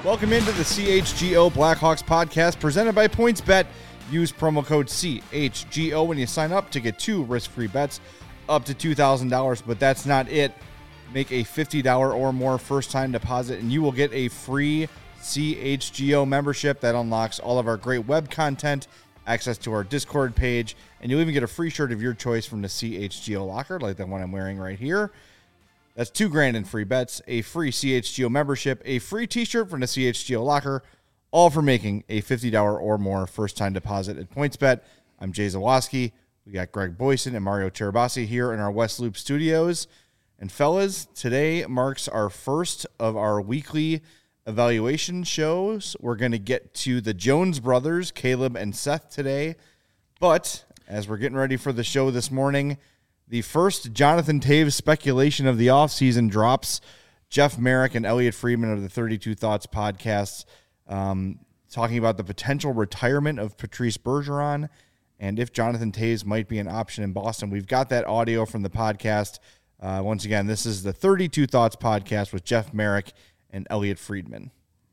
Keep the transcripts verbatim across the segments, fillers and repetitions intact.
Welcome into the C H G O Blackhawks podcast presented by PointsBet. Use promo code C H G O when you sign up to get two risk-free bets up to two thousand dollars, but that's not it. Make a fifty dollars or more first-time deposit, and you will get a free C H G O membership that unlocks all of our great web content, access to our Discord page, and you'll even get a free shirt of your choice from the C H G O locker, like the one I'm wearing right here. That's two grand in free bets, a free C H G O membership, a free t-shirt from the C H G O locker, all for making a fifty dollars or more first-time deposit at PointsBet. I'm Jay Zawaski. We got Greg Boyson and Mario Cherabassi here in our West Loop studios. And fellas, today marks our first of our weekly evaluation shows. We're going to get to the Jones brothers, Caleb and Seth, today. But as we're getting ready for the show this morning, the first Jonathan Toews speculation of the offseason drops. Jeff Marek and Elliot Friedman of the thirty-two Thoughts podcast um, talking about the potential retirement of Patrice Bergeron and if Jonathan Toews might be an option in Boston. We've got that audio from the podcast. Uh, once again, this is the thirty-two Thoughts podcast with Jeff Marek and Elliot Friedman.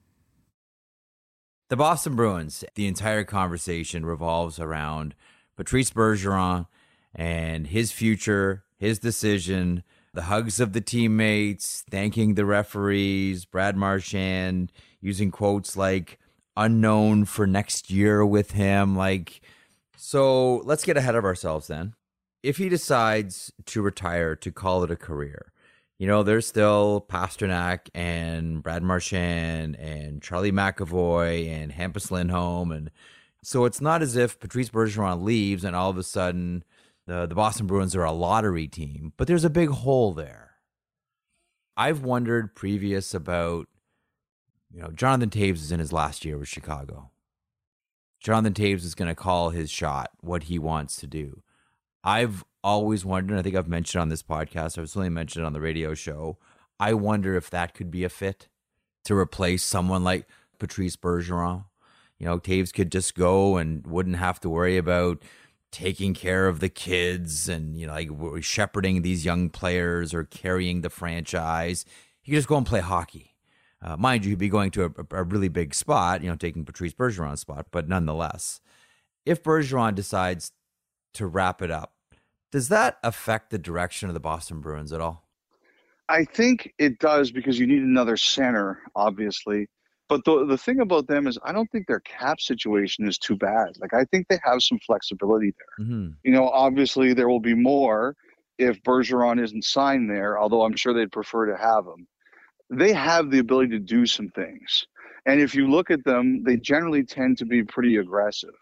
The Boston Bruins, the entire conversation revolves around Patrice Bergeron and his future, his decision, the hugs of the teammates, thanking the referees, Brad Marchand using quotes like unknown for next year with him. Like, so let's get ahead of ourselves then. If he decides to retire, to call it a career, you know, there's still Pasternak and Brad Marchand and Charlie McAvoy and Hampus Lindholm. And so it's not as if Patrice Bergeron leaves and all of a sudden the, the Boston Bruins are a lottery team, but there's a big hole there. I've wondered previous about, you know, Jonathan Toews is in his last year with Chicago. Jonathan Toews is going to call his shot, what he wants to do. I've always wondered, I think I've mentioned on this podcast, I've certainly mentioned it on the radio show, I wonder if that could be a fit to replace someone like Patrice Bergeron. You know, Toews could just go and wouldn't have to worry about taking care of the kids and, you know, like shepherding these young players or carrying the franchise. He could just go and play hockey. Uh, mind you, he'd be going to a, a really big spot, you know, taking Patrice Bergeron's spot, but nonetheless, if Bergeron decides to wrap it up, does that affect the direction of the Boston Bruins at all? I think it does because you need another center, obviously. But the the thing about them is I don't think their cap situation is too bad. Like, I think they have some flexibility there. Mm-hmm. You know, obviously there will be more if Bergeron isn't signed there, although I'm sure they'd prefer to have him. They have the ability to do some things. And if you look at them, they generally tend to be pretty aggressive.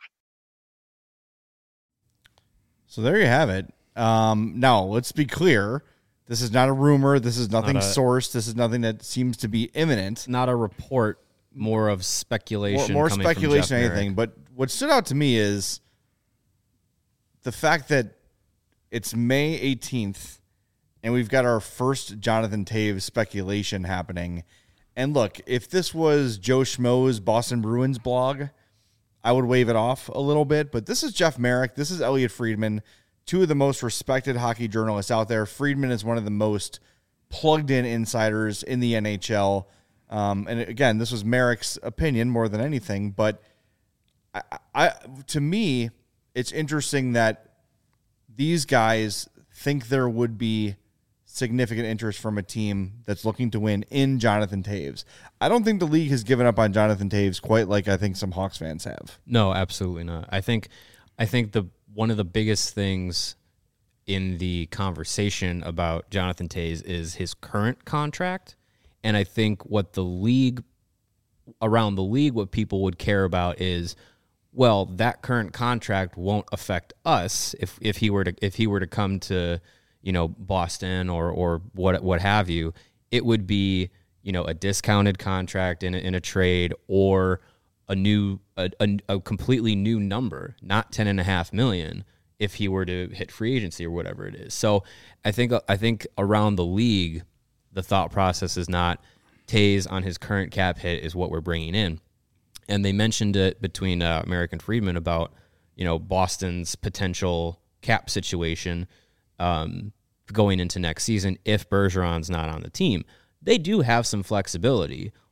So there you have it. Um, now, let's be clear. This is not a rumor. This is nothing not a, sourced. This is nothing that seems to be imminent. Not a report, more of speculation. More, more coming speculation from than anything. But what stood out to me is the fact that it's May eighteenth, and we've got our first Jonathan Toews speculation happening. And look, if this was Joe Schmo's Boston Bruins blog, I would wave it off a little bit, but this is Jeff Marek. This is Elliot Friedman, two of the most respected hockey journalists out there. Friedman is one of the most plugged-in insiders in the N H L. Um, and again, this was Marek's opinion more than anything, but I, I, to me, it's interesting that these guys think there would be significant interest from a team that's looking to win in Jonathan Toews. I don't think the league has given up on Jonathan Toews quite like I think some Hawks fans have. No, absolutely not. I think I think the one of the biggest things in the conversation about Jonathan Toews is his current contract. And I think what the league, around the league, what people would care about is, well, that current contract won't affect us if, if he were to if he were to come to, you know, Boston or or what what have you. It would be, you know, a discounted contract in a, in a trade or a new a, a, a completely new number, not ten and a half million, if he were to hit free agency or whatever it is. So I think I think around the league, the thought process is not Toews on his current cap hit is what we're bringing in. And they mentioned it between uh, Marek and Friedman about, you know, Boston's potential cap situation um, going into next season if Bergeron's not on the team. They do have some flexibility.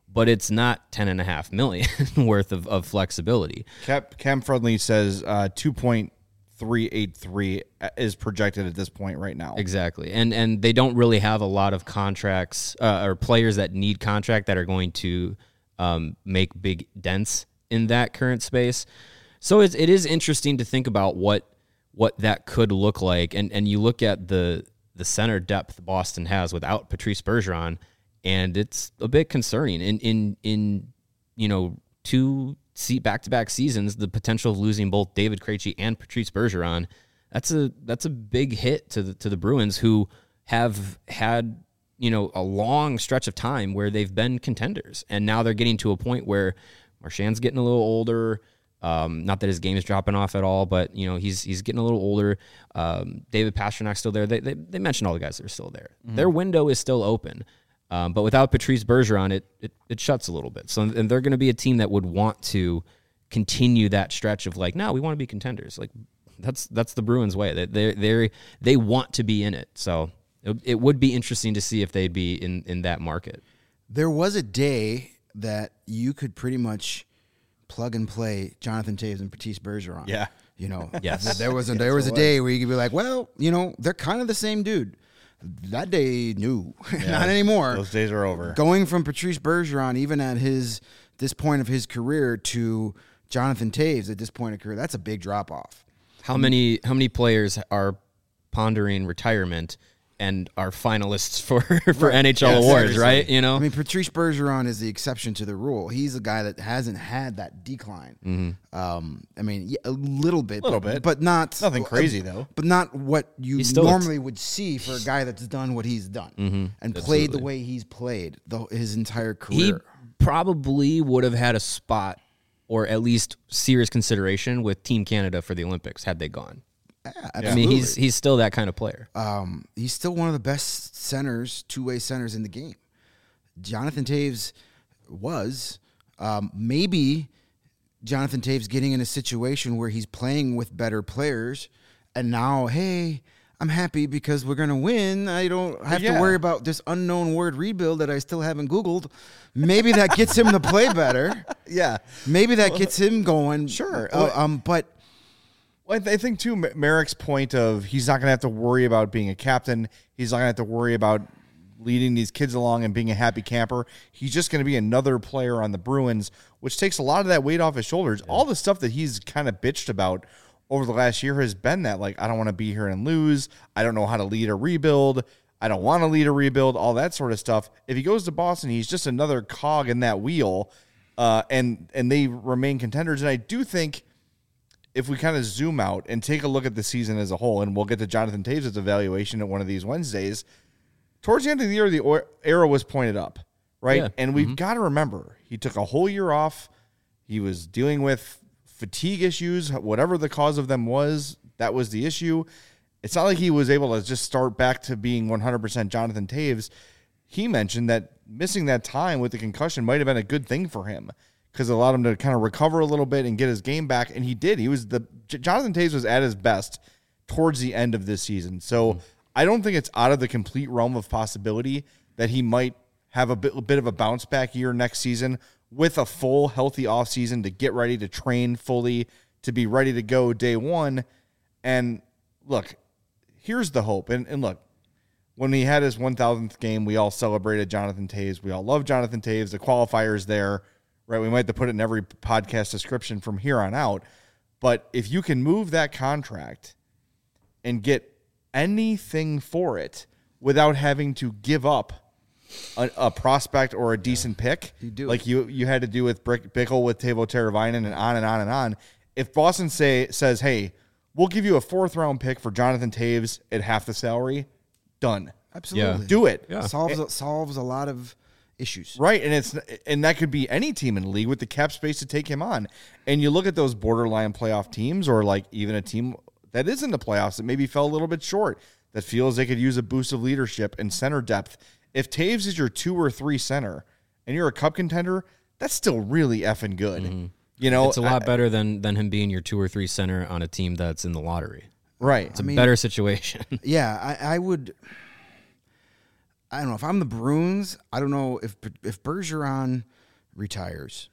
but it's not ten and a half million worth of, of flexibility. Cap, Cam Friendly says uh, two point three eight three is projected at this point right now. Exactly. And and they don't really have a lot of contracts uh, or players that need contract that are going to um, make big dents in that current space. So it's, it is interesting to think about what what that could look like. And and you look at the the center depth Boston has without Patrice Bergeron, and it's a bit concerning. In in in you know two see back-to-back seasons, the potential of losing both David Krejci and Patrice Bergeron, that's a that's a big hit to the to the Bruins, who have had, you know, a long stretch of time where they've been contenders, and now they're getting to a point where Marchand's getting a little older. Um, not that his game is dropping off at all, but you know he's he's getting a little older. Um, David Pasternak's still there. They, they they mentioned all the guys that are still there. Mm-hmm. Their window is still open. Um, but without Patrice Bergeron, it, it it shuts a little bit. So, and they're going to be a team that would want to continue that stretch of like, no, we want to be contenders. Like that's that's the Bruins' way. They they they they want to be in it. So it, it would be interesting to see if they'd be in, in that market. There was a day that you could pretty much plug and play Jonathan Toews and Patrice Bergeron. Yeah, you know, yes. There was a there was a day where you could be like, well, you know, they're kind of the same dude. That day, no, yeah, not anymore. Those days are over. Going from Patrice Bergeron, even at his this point of his career, to Jonathan Toews at this point of career, that's a big drop off. How many how many players are pondering retirement and are finalists for, for right. N H L yeah, awards, seriously. Right? You know, I mean, Patrice Bergeron is the exception to the rule. He's a guy that hasn't had that decline. Mm-hmm. Um, I mean, yeah, a little bit, a little but, bit, but not nothing crazy uh, though. But not what you normally t- would see for a guy that's done what he's done mm-hmm. and Absolutely. played the way he's played the, his entire career. He probably would have had a spot, or at least serious consideration, with Team Canada for the Olympics had they gone. Yeah, I mean, he's he's still that kind of player. Um, he's still one of the best centers, two-way centers in the game. Jonathan Toews was. Um, maybe Jonathan Toews getting in a situation where he's playing with better players, and now, hey, I'm happy because we're going to win. I don't have yeah. to worry about this unknown word rebuild that I still haven't Googled. Maybe that gets him to play better. Yeah. Maybe that gets him going. Sure. Uh, um, but... Well, I think, too, Merrick's point of he's not going to have to worry about being a captain. He's not going to have to worry about leading these kids along and being a happy camper. He's just going to be another player on the Bruins, which takes a lot of that weight off his shoulders. Yeah. All the stuff that he's kind of bitched about over the last year has been that, like, I don't want to be here and lose. I don't know how to lead a rebuild. I don't want to lead a rebuild, all that sort of stuff. If he goes to Boston, he's just another cog in that wheel, uh, and and they remain contenders. And I do think if we kind of zoom out and take a look at the season as a whole, and we'll get to Jonathan Toews' evaluation at one of these Wednesdays, towards the end of the year, the arrow was pointed up, right? Yeah. And we've mm-hmm. got to remember, he took a whole year off. He was dealing with fatigue issues, whatever the cause of them was, that was the issue. It's not like he was able to just start back to being one hundred percent Jonathan Toews. He mentioned that missing that time with the concussion might have been a good thing for him, because it allowed him to kind of recover a little bit and get his game back, and he did. He was the Jonathan Toews was at his best towards the end of this season. So mm. I don't think it's out of the complete realm of possibility that he might have a bit, a bit of a bounce back year next season with a full, healthy offseason to get ready to train fully, to be ready to go day one. And look, here's the hope. And, and look, when he had his one thousandth game, we all celebrated Jonathan Toews. We all love Jonathan Toews. The qualifier's there. Right, we might have to put it in every podcast description from here on out. But if you can move that contract and get anything for it without having to give up a, a prospect or a decent pick, you do. like you you had to do with Brick Bickle, with Teuvo Teravainen, and on and on and on. If Boston say says, hey, we'll give you a fourth round pick for Jonathan Toews at half the salary, done. Absolutely. Yeah. Do it. Yeah. Solves it, solves a lot of issues. Right, and it's and that could be any team in the league with the cap space to take him on. And you look at those borderline playoff teams, or like even a team that is in the playoffs that maybe fell a little bit short, that feels they could use a boost of leadership and center depth. If Toews is your two or three center and you're a cup contender, that's still really effing good. Mm-hmm. You know, it's a lot I, better than than him being your two or three center on a team that's in the lottery. Right. It's a I mean, better situation. Yeah, I, I would I don't know if I'm the Bruins. I don't know if if Bergeron retires,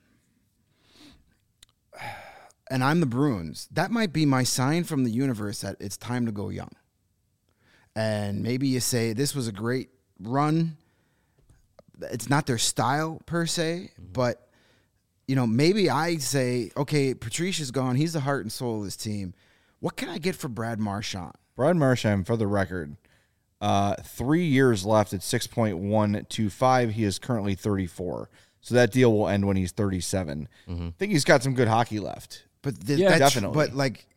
and I'm the Bruins, that might be my sign from the universe that it's time to go young. And maybe you say, this was a great run. It's not their style per se, mm-hmm. but, you know, maybe I say, okay, Patricia's gone. He's the heart and soul of this team. What can I get for Brad Marchand? Brad Marchand, for the record, uh, three years left at six point one two five. He is currently thirty-four. So that deal will end when he's thirty-seven. Mm-hmm. I think he's got some good hockey left. But th- yeah, that's, definitely. But, like,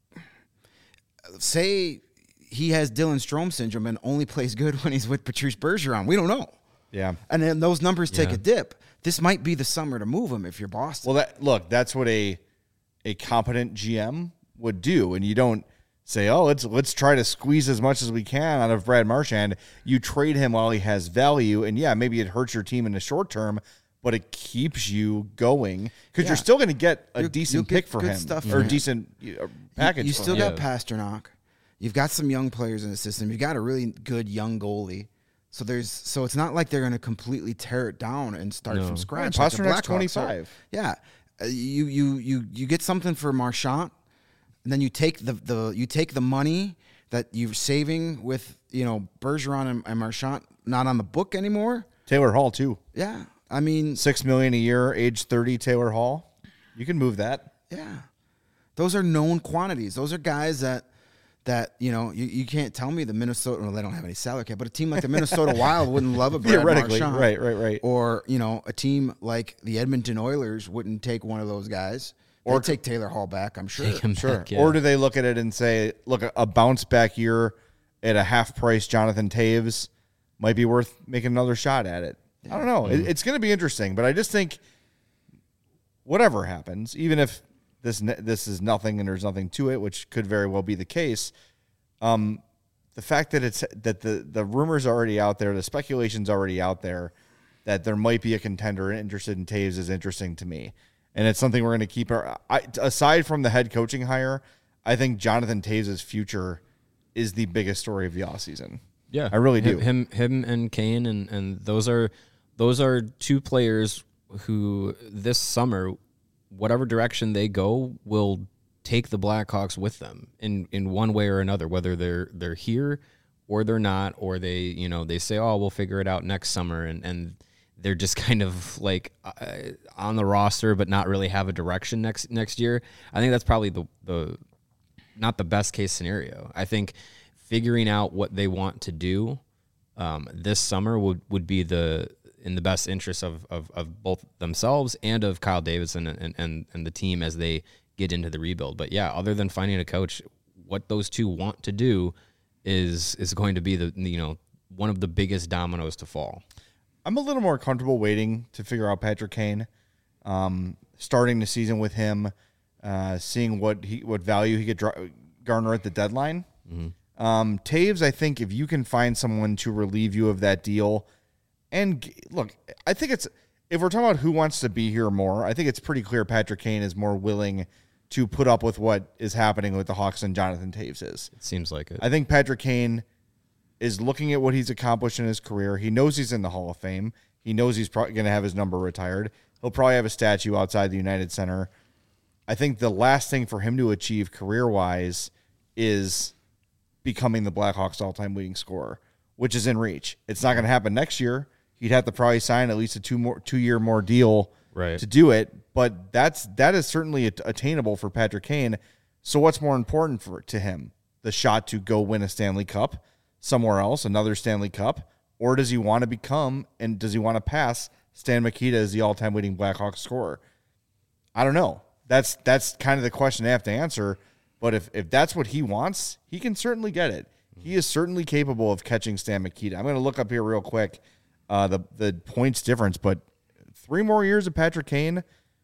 say he has Dylan Strome syndrome and only plays good when he's with Patrice Bergeron. We don't know. Yeah. And then those numbers take yeah. a dip. This might be the summer to move him if you're Boston. Well, that look, that's what a a competent G M would do. And you don't say, oh, let's let's try to squeeze as much as we can out of Brad Marchand. You trade him while he has value. And, yeah, maybe it hurts your team in the short term, but it keeps you going because Yeah. you're still going to get a You'll- decent you'll get pick for good him stuff or for a him. decent uh, package. You, you for still him. got Yeah. Pasternak. You've got some young players in the system. You've got a really good young goalie. So there's so it's not like they're going to completely tear it down and start No. from Yeah, scratch. like the Pasternak's Blackhawks are. twenty-five. Yeah, uh, you you you you get something for Marchand, and then you take the the you take the money that you're saving with you know Bergeron and, and Marchand not on the book anymore. Taylor Hall, too. Yeah, I mean, Six million dollars a year, age thirty, Taylor Hall. You can move that. yeah, those are known quantities. Those are guys that. That, you know, you, you can't tell me the Minnesota, well, they don't have any salary cap, but a team like the Minnesota Wild wouldn't love a Brad Theoretically, Marchand. right, right, right. Or, you know, a team like the Edmonton Oilers wouldn't take one of those guys. Or Or- take Taylor Hall back, I'm sure. Take him Sure. back, yeah. Or do they look at it and say, look, a bounce back year at a half price Jonathan Taves might be worth making another shot at it? I don't know. It, it's going to be interesting, but I just think whatever happens, even if this ne- this is nothing and there's nothing to it, which could very well be the case, um, the fact that it's that the the rumors are already out there, the speculation's already out there that there might be a contender interested in Taves is interesting to me. And it's something we're going to keep our I, aside from the head coaching hire, I think Jonathan Taves' future is the biggest story of the offseason. Yeah, I really do. Him, him, and Kane, and, and those are those are two players who this summer, whatever direction they go, will take the Blackhawks with them in, in one way or another. Whether they're they're here or they're not, or they you know they say, oh, we'll figure it out next summer, and and they're just kind of like uh, on the roster, but not really have a direction next next year. I think that's probably the the not the best case scenario. I think figuring out what they want to do um, this summer would, would be the in the best interest of, of, of both themselves and of Kyle Davidson and, and, and the team as they get into the rebuild. But yeah, other than finding a coach, what those two want to do is is going to be the you know one of the biggest dominoes to fall. I'm a little more comfortable waiting to figure out Patrick Kane, um, starting the season with him, uh, seeing what he what value he could dra- garner at the deadline. Mm-hmm. Um, Taves, I think if you can find someone to relieve you of that deal, and g- look, I think it's if we're talking about who wants to be here more, I think it's pretty clear Patrick Kane is more willing to put up with what is happening with the Hawks than Jonathan Taves is. It seems like it. I think Patrick Kane is looking at what he's accomplished in his career. He knows he's in the Hall of Fame. He knows he's probably going to have his number retired. He'll probably have a statue outside the United Center. I think the last thing for him to achieve career-wise is becoming the Blackhawks all-time leading scorer, which is in reach. It's not going to happen next year. He'd have to probably sign at least a two more two-year more deal Right. to do it, but that's that is certainly at- attainable for Patrick Kane. So what's more important for to him? The shot to go win a Stanley Cup somewhere else, another Stanley Cup, or does he want to become and does he want to pass Stan Mikita as the all-time leading Blackhawks scorer? I don't know. That's that's kind of the question I have to answer. But if, if that's what he wants, he can certainly get it. He is certainly capable of catching Stan Mikita. I'm going to look up here real quick uh, the the points difference, but three more years of Patrick Kane,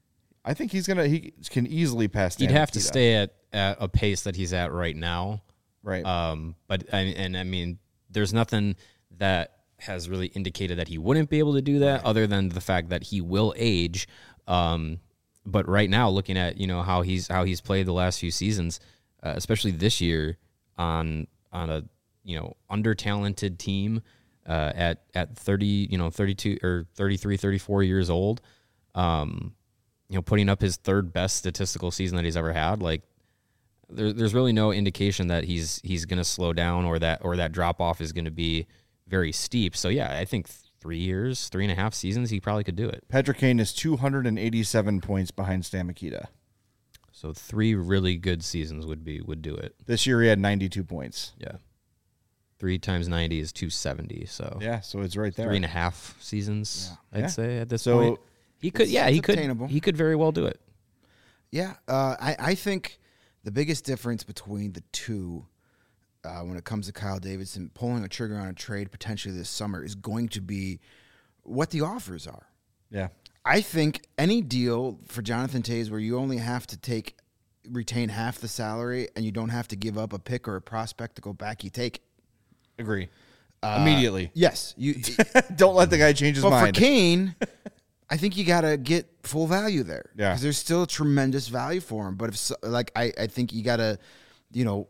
I think he's gonna he can easily pass Stan He'd have Mikita. to stay at, at a pace that he's at right now. Right. Um, but and, and I mean, there's nothing that has really indicated that he wouldn't be able to do that, other than the fact that he will age. Um, but right now, looking at you know how he's how he's played the last few seasons, uh, especially this year on on a you know under talented team uh, at at thirty you know thirty-two or thirty-three, thirty-four years old, um, you know, putting up his third best statistical season that he's ever had. Like, there, there's really no indication that he's he's going to slow down or that or that drop off is going to be very steep. So yeah, I think three years, three and a half seasons, he probably could do it. Patrick Kane is two hundred eighty-seven points behind Stan Mikita. So three really good seasons would be would do it. This year he had ninety-two points. Yeah. Three times ninety is two seventy. So yeah, so it's right there. Three and a half seasons, yeah. I'd yeah. say at this so point. He could, yeah, he could, attainable. he could very well do it. Yeah, uh, I, I think the biggest difference between the two uh, when it comes to Kyle Davidson pulling a trigger on a trade potentially this summer is going to be what the offers are. Yeah. I think any deal for Jonathan Toews where you only have to take retain half the salary and you don't have to give up a pick or a prospect to go back, you take it. Agree. Uh, Immediately. Yes. You don't let the guy change his but mind. For Kane, I think you got to get full value there. Yeah. Because there's still tremendous value for him. But if so, like I, I think you got to, you know,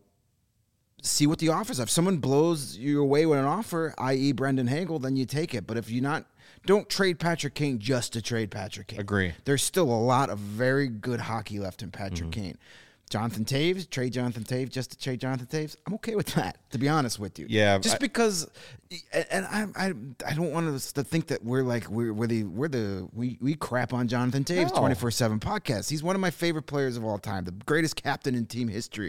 see what the offers are. If someone blows you away with an offer, that is. Brendan Hagel, then you take it. But if you're not, don't trade Patrick Kane just to trade Patrick Kane. Agree. There's still a lot of very good hockey left in Patrick mm-hmm. Kane. Jonathan Toews, trade Jonathan Toews just to trade Jonathan Toews. I'm okay with that, to be honest with you. Yeah, just I, because, and I, I, I don't want us to think that we're like we're we're the we're the we we crap on Jonathan Toews twenty-four seven podcast. He's one of my favorite players of all time, the greatest captain in team history.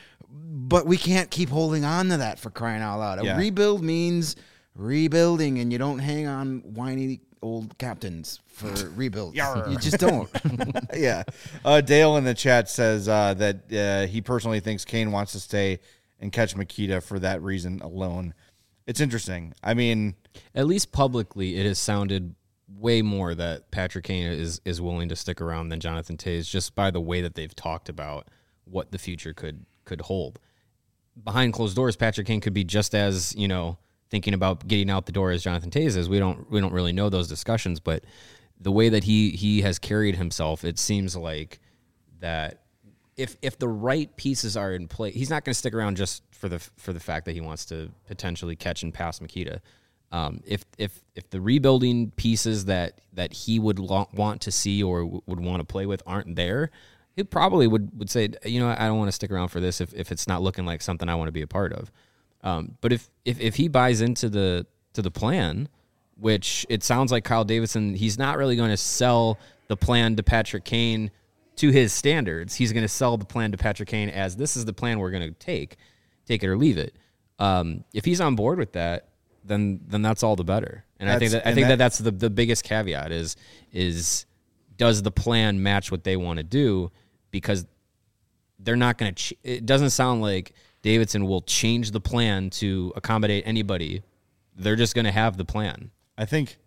But we can't keep holding on to that for crying out loud. Yeah. A rebuild means rebuilding, and you don't hang on whiny old captains for rebuilds. You just don't. yeah. Uh, Dale in the chat says uh, that uh, he personally thinks Kane wants to stay and catch Mikita for that reason alone. It's interesting. I mean, at least publicly, it has sounded way more that Patrick Kane is is willing to stick around than Jonathan Toews, just by the way that they've talked about what the future could could hold. Behind closed doors, Patrick Kane could be just as, you know, thinking about getting out the door as Jonathan Toews is. We don't we don't really know those discussions, but the way that he he has carried himself, it seems like that if if the right pieces are in place, he's not going to stick around just for the for the fact that he wants to potentially catch and pass Mikita. Um, if if if the rebuilding pieces that that he would lo- want to see or w- would want to play with aren't there, he probably would would say, you know, I don't want to stick around for this if if it's not looking like something I want to be a part of. Um, but if, if if he buys into the to the plan, which it sounds like Kyle Davidson, he's not really going to sell the plan to Patrick Kane to his standards. He's going to sell the plan to Patrick Kane as this is the plan we're going to take, take it or leave it. Um, if he's on board with that, then then that's all the better. And that's, I think that I think that, that that's the, the biggest caveat is is does the plan match what they want to do? Because they're not going to. Ch- it doesn't sound like Davidson will change the plan to accommodate anybody. They're just going to have the plan. I think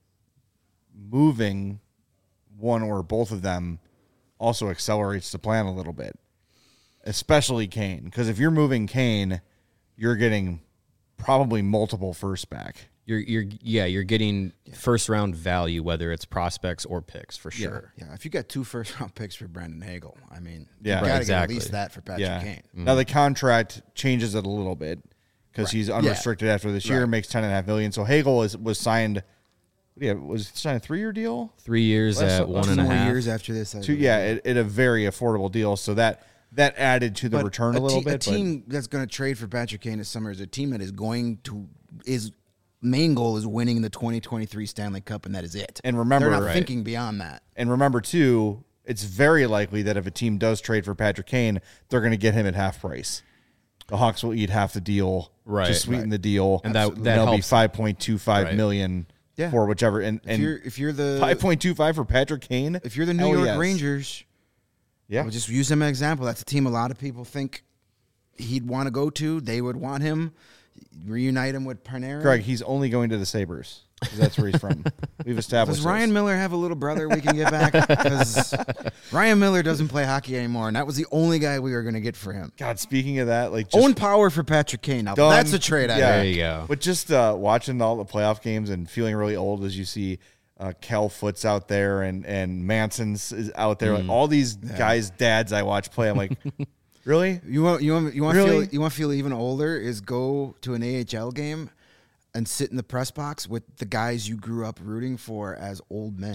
moving one or both of them also accelerates the plan a little bit, especially Kane. Because if you're moving Kane, you're getting probably multiple first back. You're you're yeah you're getting first round value, whether it's prospects or picks for sure. Yeah, yeah. If you got two first round picks for Brendan Hagel, I mean, yeah, you got to exactly. get at least that for Patrick yeah. Kane. Mm-hmm. Now the contract changes it a little bit because right. he's unrestricted yeah. after this year, right. makes ten and a half million. So Hagel is was signed. Yeah, was signed a three year deal. Three years Less, at one and a half years after this. Two, yeah, it, it a very affordable deal. So that that added to the but return a, a little te- bit. A team that's going to trade for Patrick Kane this summer is a team that is going to is. Main goal is winning the twenty twenty-three Stanley Cup, and that is it. And remember, they're not right. thinking beyond that. And remember, too, it's very likely that if a team does trade for Patrick Kane, they're going to get him at half price. The Hawks will eat half the deal right, to sweeten right. the deal, and that, that that'll helps. be five point two five right. million yeah. for whichever. And, and if you're if you're the five point two five for Patrick Kane, if you're the New York yes. Rangers, yeah, we'll just use them as an example. That's a team a lot of people think he'd want to go to. They would want him. Reunite him with Panarin. Greg, he's only going to the Sabres because that's where he's from. We've established. Does Ryan this. Miller have a little brother we can get back? Because Ryan Miller doesn't play hockey anymore, and that was the only guy we were going to get for him. God, speaking of that, like just Owen Power for Patrick Kane. Now done. That's a trade. Yeah, idea. There you go. But just uh, watching all the playoff games and feeling really old as you see uh, Cal Foot's out there and and Manson's is out there. Mm. Like all these Yeah. guys' dads I watch play. I'm like. Really? You want you want you want Really? to feel you want to feel even older is go to an A H L game and sit in the press box with the guys you grew up rooting for as old men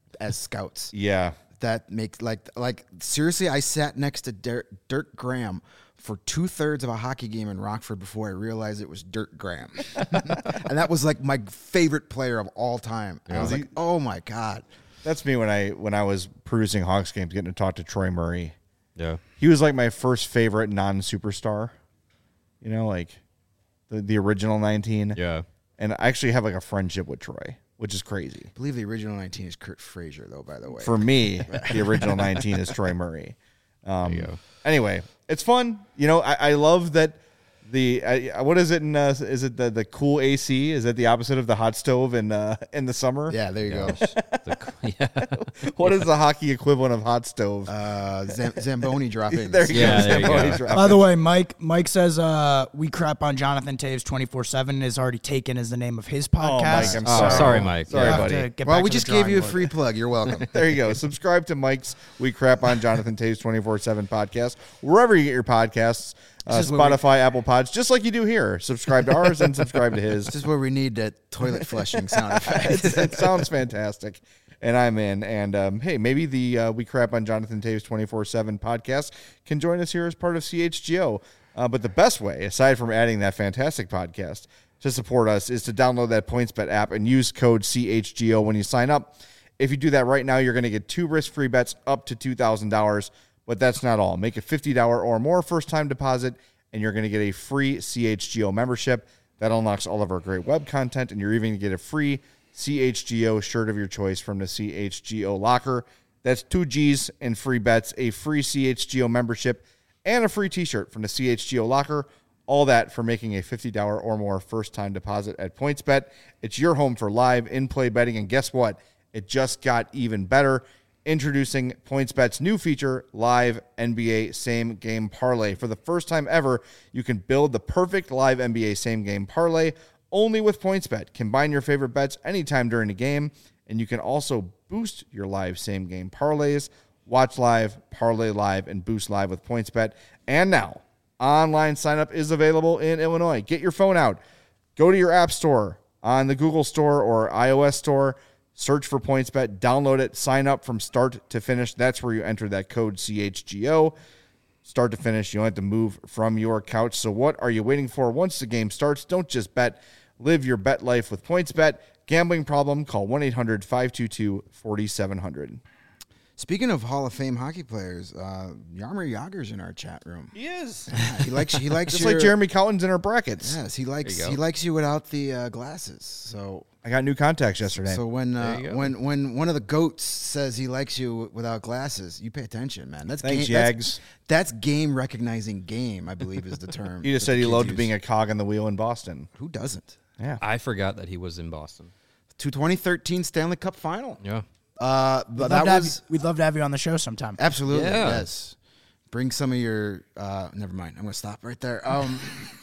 as scouts. Yeah. That makes like like seriously, I sat next to Dirk, Dirk Graham for two thirds of a hockey game in Rockford before I realized it was Dirk Graham, and that was like my favorite player of all time. And I was like, oh my god, that's me when I when I was producing Hawks games, getting to talk to Troy Murray. Yeah, he was like my first favorite non-superstar. You know, like the the original nineteen. Yeah, and I actually have like a friendship with Troy, which is crazy. I believe the original nineteen is Kurt Frazier, though, by the way. For me, the original nineteen is Troy Murray. Um, there you go. Anyway, it's fun. You know, I, I love that the uh, what is it in uh, is it the, the cool A C? Is that the opposite of the hot stove in uh, in the summer? Yeah, there you go. the, yeah. What is the hockey equivalent of hot stove? Uh, Zam- Zamboni drop-ins. There you yeah, go. There Zamboni you go. drop-ins. By the way, Mike Mike says uh, we crap on Jonathan Toews twenty-four seven is already taken as the name of his podcast. Oh, Mike, I'm Oh, sorry. sorry, Mike. Sorry, We'll have buddy. to get Well, back we to just the gave you a drawing free board. plug. You're welcome. There you go. Subscribe to Mike's We Crap on Jonathan Toews twenty-four seven podcast, wherever you get your podcasts, uh, This is where we- Spotify, Apple Pods, just like you do here. Subscribe to ours and subscribe to his. This is where we need that toilet flushing sound effect. it sounds fantastic, and I'm in. And um, hey, maybe the uh, We Crap on Jonathan Toews twenty-four seven podcast can join us here as part of C H G O. Uh, but the best way, aside from adding that fantastic podcast to support us, is to download that PointsBet app and use code C H G O when you sign up. If you do that right now, you're going to get two risk-free bets up to two thousand dollars. But that's not all. Make a fifty dollars or more first-time deposit, and you're going to get a free C H G O membership. That unlocks all of our great web content, and you're even going to get a free C H G O shirt of your choice from the C H G O locker. That's two G's and free bets, a free C H G O membership, and a free t-shirt from the C H G O locker. All that for making a fifty dollars or more first-time deposit at PointsBet. It's your home for live in-play betting, and guess what? It just got even better. Introducing PointsBet's new feature, Live N B A Same Game Parlay. For the first time ever, you can build the perfect live N B A Same Game Parlay only with PointsBet. Combine your favorite bets anytime during the game, and you can also boost your live Same Game Parlays. Watch live, parlay live, and boost live with PointsBet. And now, online sign-up is available in Illinois. Get your phone out. Go to your app store on the Google Store or iOS store. Search for PointsBet, download it, sign up from start to finish. That's where you enter that code C H G O. Start to finish, you don't have to move from your couch. So what are you waiting for? Once the game starts, don't just bet. Live your bet life with PointsBet. Gambling problem? Call one eight hundred five two two four seven zero zero. Speaking of Hall of Fame hockey players, uh, Jaromir Jagr's in our chat room. He is. Yeah, he likes he likes Just your, like Jeremy Collins in our brackets. Yes, he likes There you go. he likes you without the uh, glasses. So I got new contacts yesterday. so when uh, There you go. when when one of the goats says he likes you without glasses, you pay attention, man. That's Thanks, game, that's- Jags. That's, game recognizing game, I believe is the term. He just that said the he kids loved use. being a cog in the wheel in Boston. Who doesn't? Yeah. I forgot that he was in Boston. To twenty thirteen Stanley Cup final. Yeah. Uh, We'd but love, that to have was you, we'd love to have you on the show sometime. absolutely Yeah. yes. Bring some of your. Uh, never mind. I'm gonna stop right there. Um,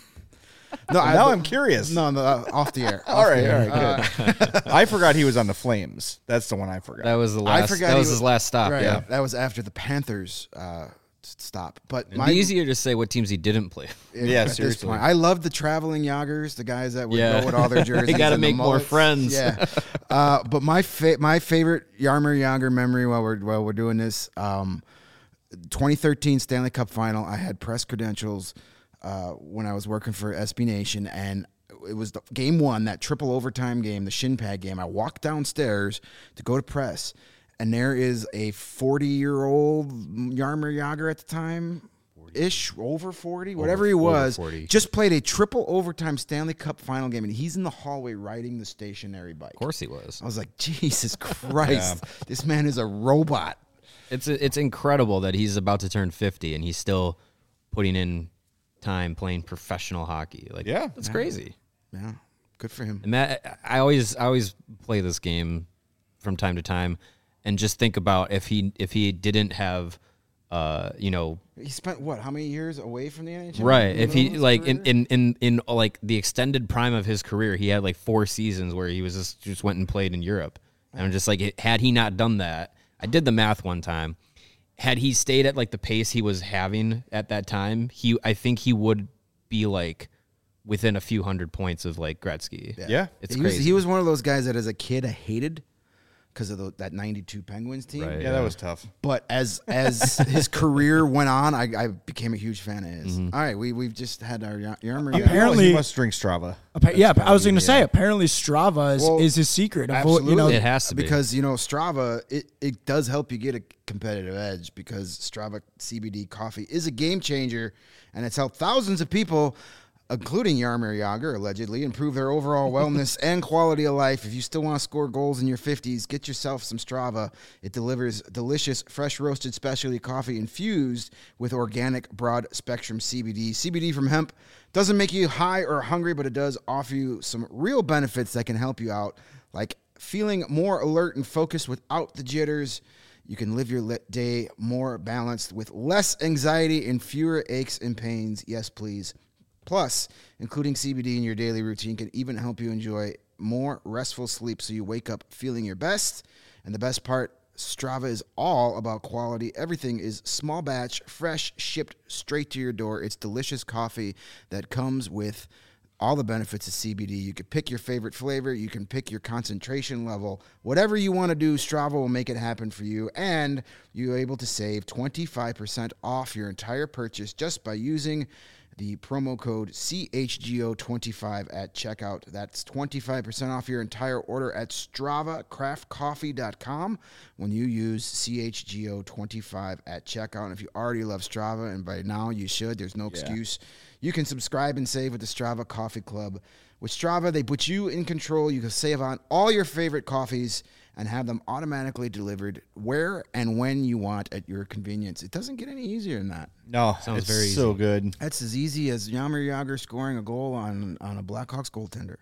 no, I, now I'm curious. No, no, uh, off the air. all Off right, the all air. right, good. I forgot he was on the Flames. That's the one I forgot. That was the I last. forgot That he was was- his last stop. Right, Yeah. that was after the Panthers uh, stop. But It'd my, be easier to say what teams he didn't play. Yeah, at this seriously. point, I love the traveling Yoggers, the guys that would Yeah. go with all their jerseys. They gotta and the make more mullets. friends. Yeah, uh, but my fa- my favorite Jaromir Jagr memory while we're while we're doing this, um, twenty thirteen Stanley Cup Final. I had press credentials uh, when I was working for S B Nation, and it was the game one, that triple overtime game, the shin pad game. I walked downstairs to go to press, and there is a forty-year-old Jaromir Jagr at the time, ish, over forty, whatever he over was, forty. just played a triple overtime Stanley Cup final game, and he's in the hallway riding the stationary bike. Of course he was. I was like, Jesus Christ, this man is a robot. It's it's incredible that he's about to turn fifty and he's still putting in time playing professional hockey. Like, Yeah. that's crazy. Yeah, good for him. And that I always I always play this game from time to time, and just think about if he if he didn't have, uh, you know, He spent what? How many years away from the N H L? right? In the If middle he of his like in, career? in in in like the extended prime of his career, he had like four seasons where he was just just went and played in Europe. And I'm just like, it- had he not done that, I did the math one time. Had he stayed at like the pace he was having at that time, he I think he would be like within a few hundred points of like Gretzky. Yeah. It's he was, crazy. he was one of those guys that as a kid I hated because of the, that ninety-two Penguins team. Right. Yeah, that was tough. But as as his career went on, I, I became a huge fan of his. Mm-hmm. All right, we we've just had our Yarmer. You, Apparently- you must drink Strava. Appa- yeah, I was going to yeah. say apparently Strava is, Well, is his secret. Of what, you know, It has to be. because you know Strava, it, it does help you get a competitive edge because Strava C B D coffee is a game changer, and it's helped thousands of people, including Jaromir Jagr, allegedly, improve their overall wellness and quality of life. If you still want to score goals in your fifties, get yourself some Strava. It delivers delicious, fresh roasted specialty coffee infused with organic broad spectrum C B D. C B D from hemp doesn't make you high or hungry, but it does offer you some real benefits that can help you out, like feeling more alert and focused without the jitters. You can live your li- day more balanced with less anxiety and fewer aches and pains. Yes, please. Plus, including C B D in your daily routine can even help you enjoy more restful sleep so you wake up feeling your best. And the best part, Strava is all about quality. Everything is small batch, fresh, shipped straight to your door. It's delicious coffee that comes with all the benefits of C B D. You can pick your favorite flavor. You can pick your concentration level. Whatever you want to do, Strava will make it happen for you. And you're able to save twenty-five percent off your entire purchase just by using the promo code C H G O twenty-five at checkout. That's twenty-five percent off your entire order at strava craft coffee dot com when you use C H G O twenty-five at checkout. And if you already love Strava, and by now you should, there's no excuse, you can subscribe and save with the Strava Coffee Club. With Strava, they put you in control. You can save on all your favorite coffees and have them automatically delivered where and when you want at your convenience. It doesn't get any easier than that. No, Sounds it's very so easy. good. That's as easy as Jaromir Jagr scoring a goal on, on a Blackhawks goaltender.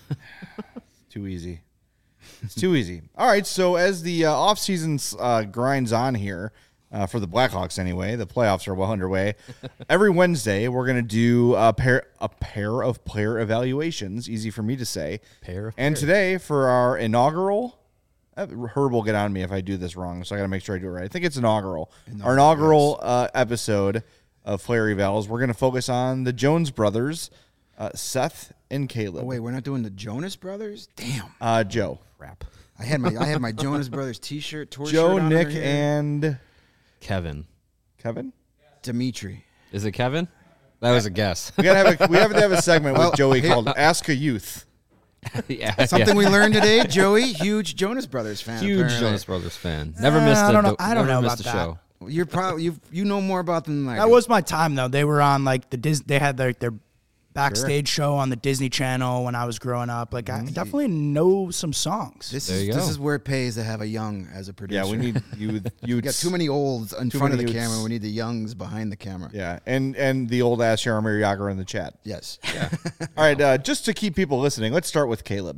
Too easy. It's too easy. All right, so as the uh, offseason uh, grinds on here, uh, for the Blackhawks anyway, the playoffs are well underway. Every Wednesday, we're going to do a pair a pair of player evaluations, easy for me to say. Pair of and players. today, for our inaugural, uh, Herb will get on me if I do this wrong, so I got to make sure I do it right. I think it's inaugural. our inaugural uh, episode of Player Evals, we're going to focus on the Jones brothers, uh, Seth and Caleb. Oh, wait, we're not doing the Jonas Brothers? Damn. Uh, Joe. Crap. I had my I had my Jonas Brothers T-shirt, tour Joe, shirt on Nick, over here. and Kevin. Kevin. Dimitri. Is it Kevin? That was a guess. We gotta have a we have to have a segment Well, with Joey here- called "Ask a Youth." yeah, Something yeah. we learned today, Joey, huge Jonas Brothers fan. Huge apparently. Jonas Brothers fan. Never Uh, missed I a don't know- do- I don't never know missed about a that. show. You're probably you you know more about them than I that do. was my time though. They were on like the Dis. They had their their backstage show on the Disney Channel when I was growing up. Like I definitely know some songs. This There is you this go. is where it pays to have a young as a producer. Yeah, we need you. You We got too many olds in Too front of many the youths. camera. We need the youngs behind the camera. Yeah, and and the old ass Jaromir Jagr in the chat. Yes. All right, uh, just to keep people listening, let's start with Caleb.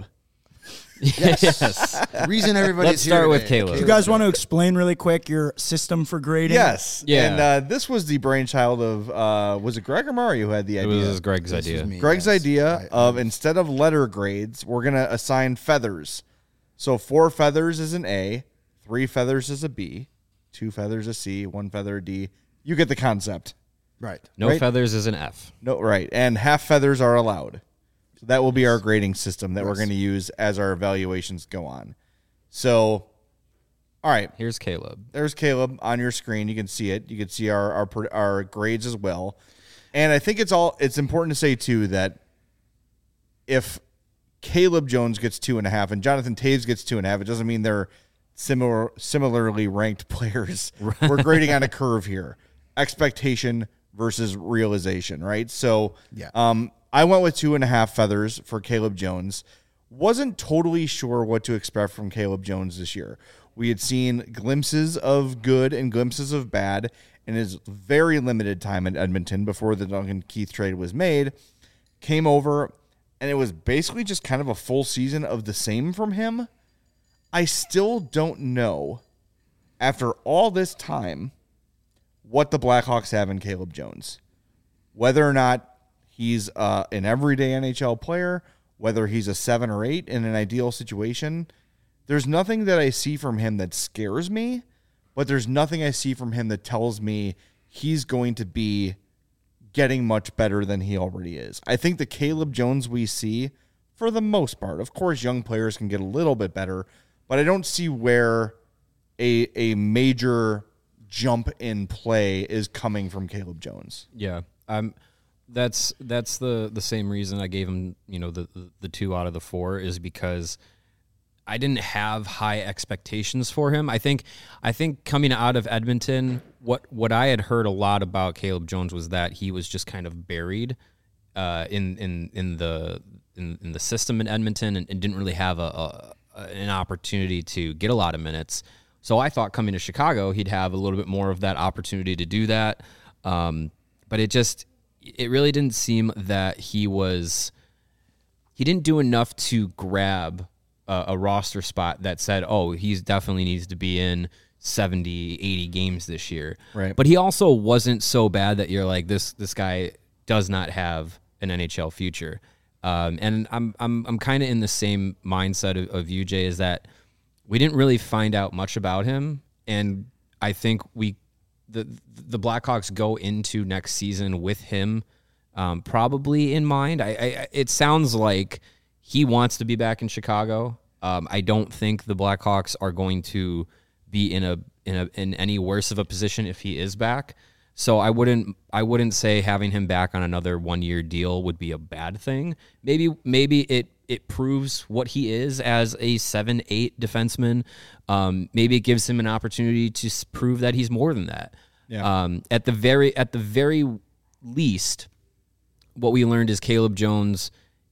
yes. Reason everybody's Let's here start with today. Caleb. you guys want to explain really quick your system for grading? Yes. Yeah. And uh, this was the brainchild of uh, was it Greg or Mario who had the It idea? was Greg's This idea. was me, Greg's yes. idea I- of instead of letter grades, we're gonna assign feathers. So four feathers is an A, three feathers is a B, two feathers a C, one feather a D. You get the concept. Right. No Right. feathers is an F. No, right. And half feathers are allowed. So that will be our grading system that we're Yes. going to use as our evaluations go on. So, all right. Here's Caleb. There's Caleb on your screen. You can see it. You can see our our, pro- our grades as well. And I think it's all it's important to say too that if Caleb Jones gets two and a half and Jonathan Taves gets two and a half, it doesn't mean they're similar similarly ranked players. We're grading on a curve here. Expectation versus realization, right? So Yeah. um I went with two and a half feathers for Caleb Jones. Wasn't totally sure what to expect from Caleb Jones this year. We had seen glimpses of good and glimpses of bad in his very limited time in Edmonton before the Duncan Keith trade was made. Came over, and it was basically just kind of a full season of the same from him. I still don't know, after all this time, what the Blackhawks have in Caleb Jones. Whether or not he's uh, an everyday N H L player, whether he's a seven or eight in an ideal situation. There's nothing that I see from him that scares me, but there's nothing I see from him that tells me he's going to be getting much better than he already is. I think the Caleb Jones we see, for the most part, of course, young players can get a little bit better, but I don't see where a a major jump in play is coming from Caleb Jones. Yeah, um, that's that's the the same reason I gave him, you know, the, the the two out of the four is because I didn't have high expectations for him. I think I think coming out of Edmonton, what what I had heard a lot about Caleb Jones was that he was just kind of buried uh, in in in the in, in the system in Edmonton and, and didn't really have a, a an opportunity to get a lot of minutes. So I thought coming to Chicago, he'd have a little bit more of that opportunity to do that. Um, but it just, it really didn't seem that he was, he didn't do enough to grab a, a roster spot that said, oh, he's definitely needs to be in seventy, eighty games this year. Right. But he also wasn't so bad that you're like, this, this guy does not have an N H L future. Um, and I'm, I'm, I'm kind of in the same mindset of, of U J is that we didn't really find out much about him, and I think we, the the Blackhawks go into next season with him um, probably in mind. I, I it sounds like he wants to be back in Chicago. Um, I don't think the Blackhawks are going to be in a in a in any worse of a position if he is back. So I wouldn't I wouldn't say having him back on another one year deal would be a bad thing. Maybe maybe it. It proves what he is as a seven eight defenseman. Um, maybe it gives him an opportunity to s- prove that he's more than that. Yeah. Um, at the very at the very least, what we learned is Caleb Jones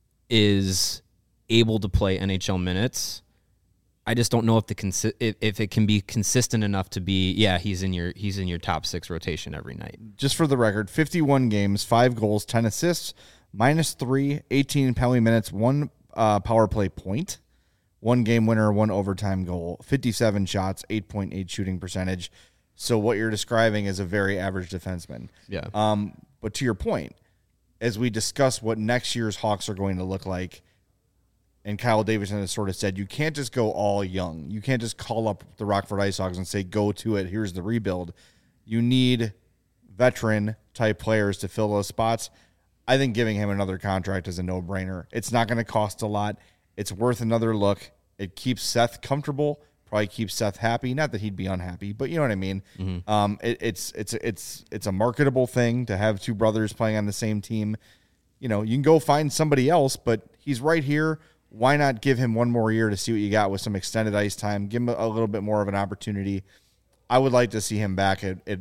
is able to play N H L minutes. I just don't know if the consi- if, if it can be consistent enough to be yeah he's in your he's in your top six rotation every night. Just for the record, fifty-one games, five goals, ten assists, minus three, eighteen penalty minutes, one uh, power play point, one game winner, one overtime goal, fifty-seven shots, eight point eight shooting percentage. So what you're describing is a very average defenseman. Yeah. Um, but to your point, as we discuss what next year's Hawks are going to look like, and Kyle Davidson has sort of said, you can't just go all young. You can't just call up the Rockford Ice Hogs and say, go to it, here's the rebuild. You need veteran-type players to fill those spots. I think giving him another contract is a no-brainer. It's not going to cost a lot. It's worth another look. It keeps Seth comfortable, probably keeps Seth happy. Not that he'd be unhappy, but you know what I mean. Mm-hmm. Um, it, it's it's it's it's a marketable thing to have two brothers playing on the same team. You know, you can go find somebody else, but he's right here. Why not give him one more year to see what you got with some extended ice time? Give him a little bit more of an opportunity. I would like to see him back at, at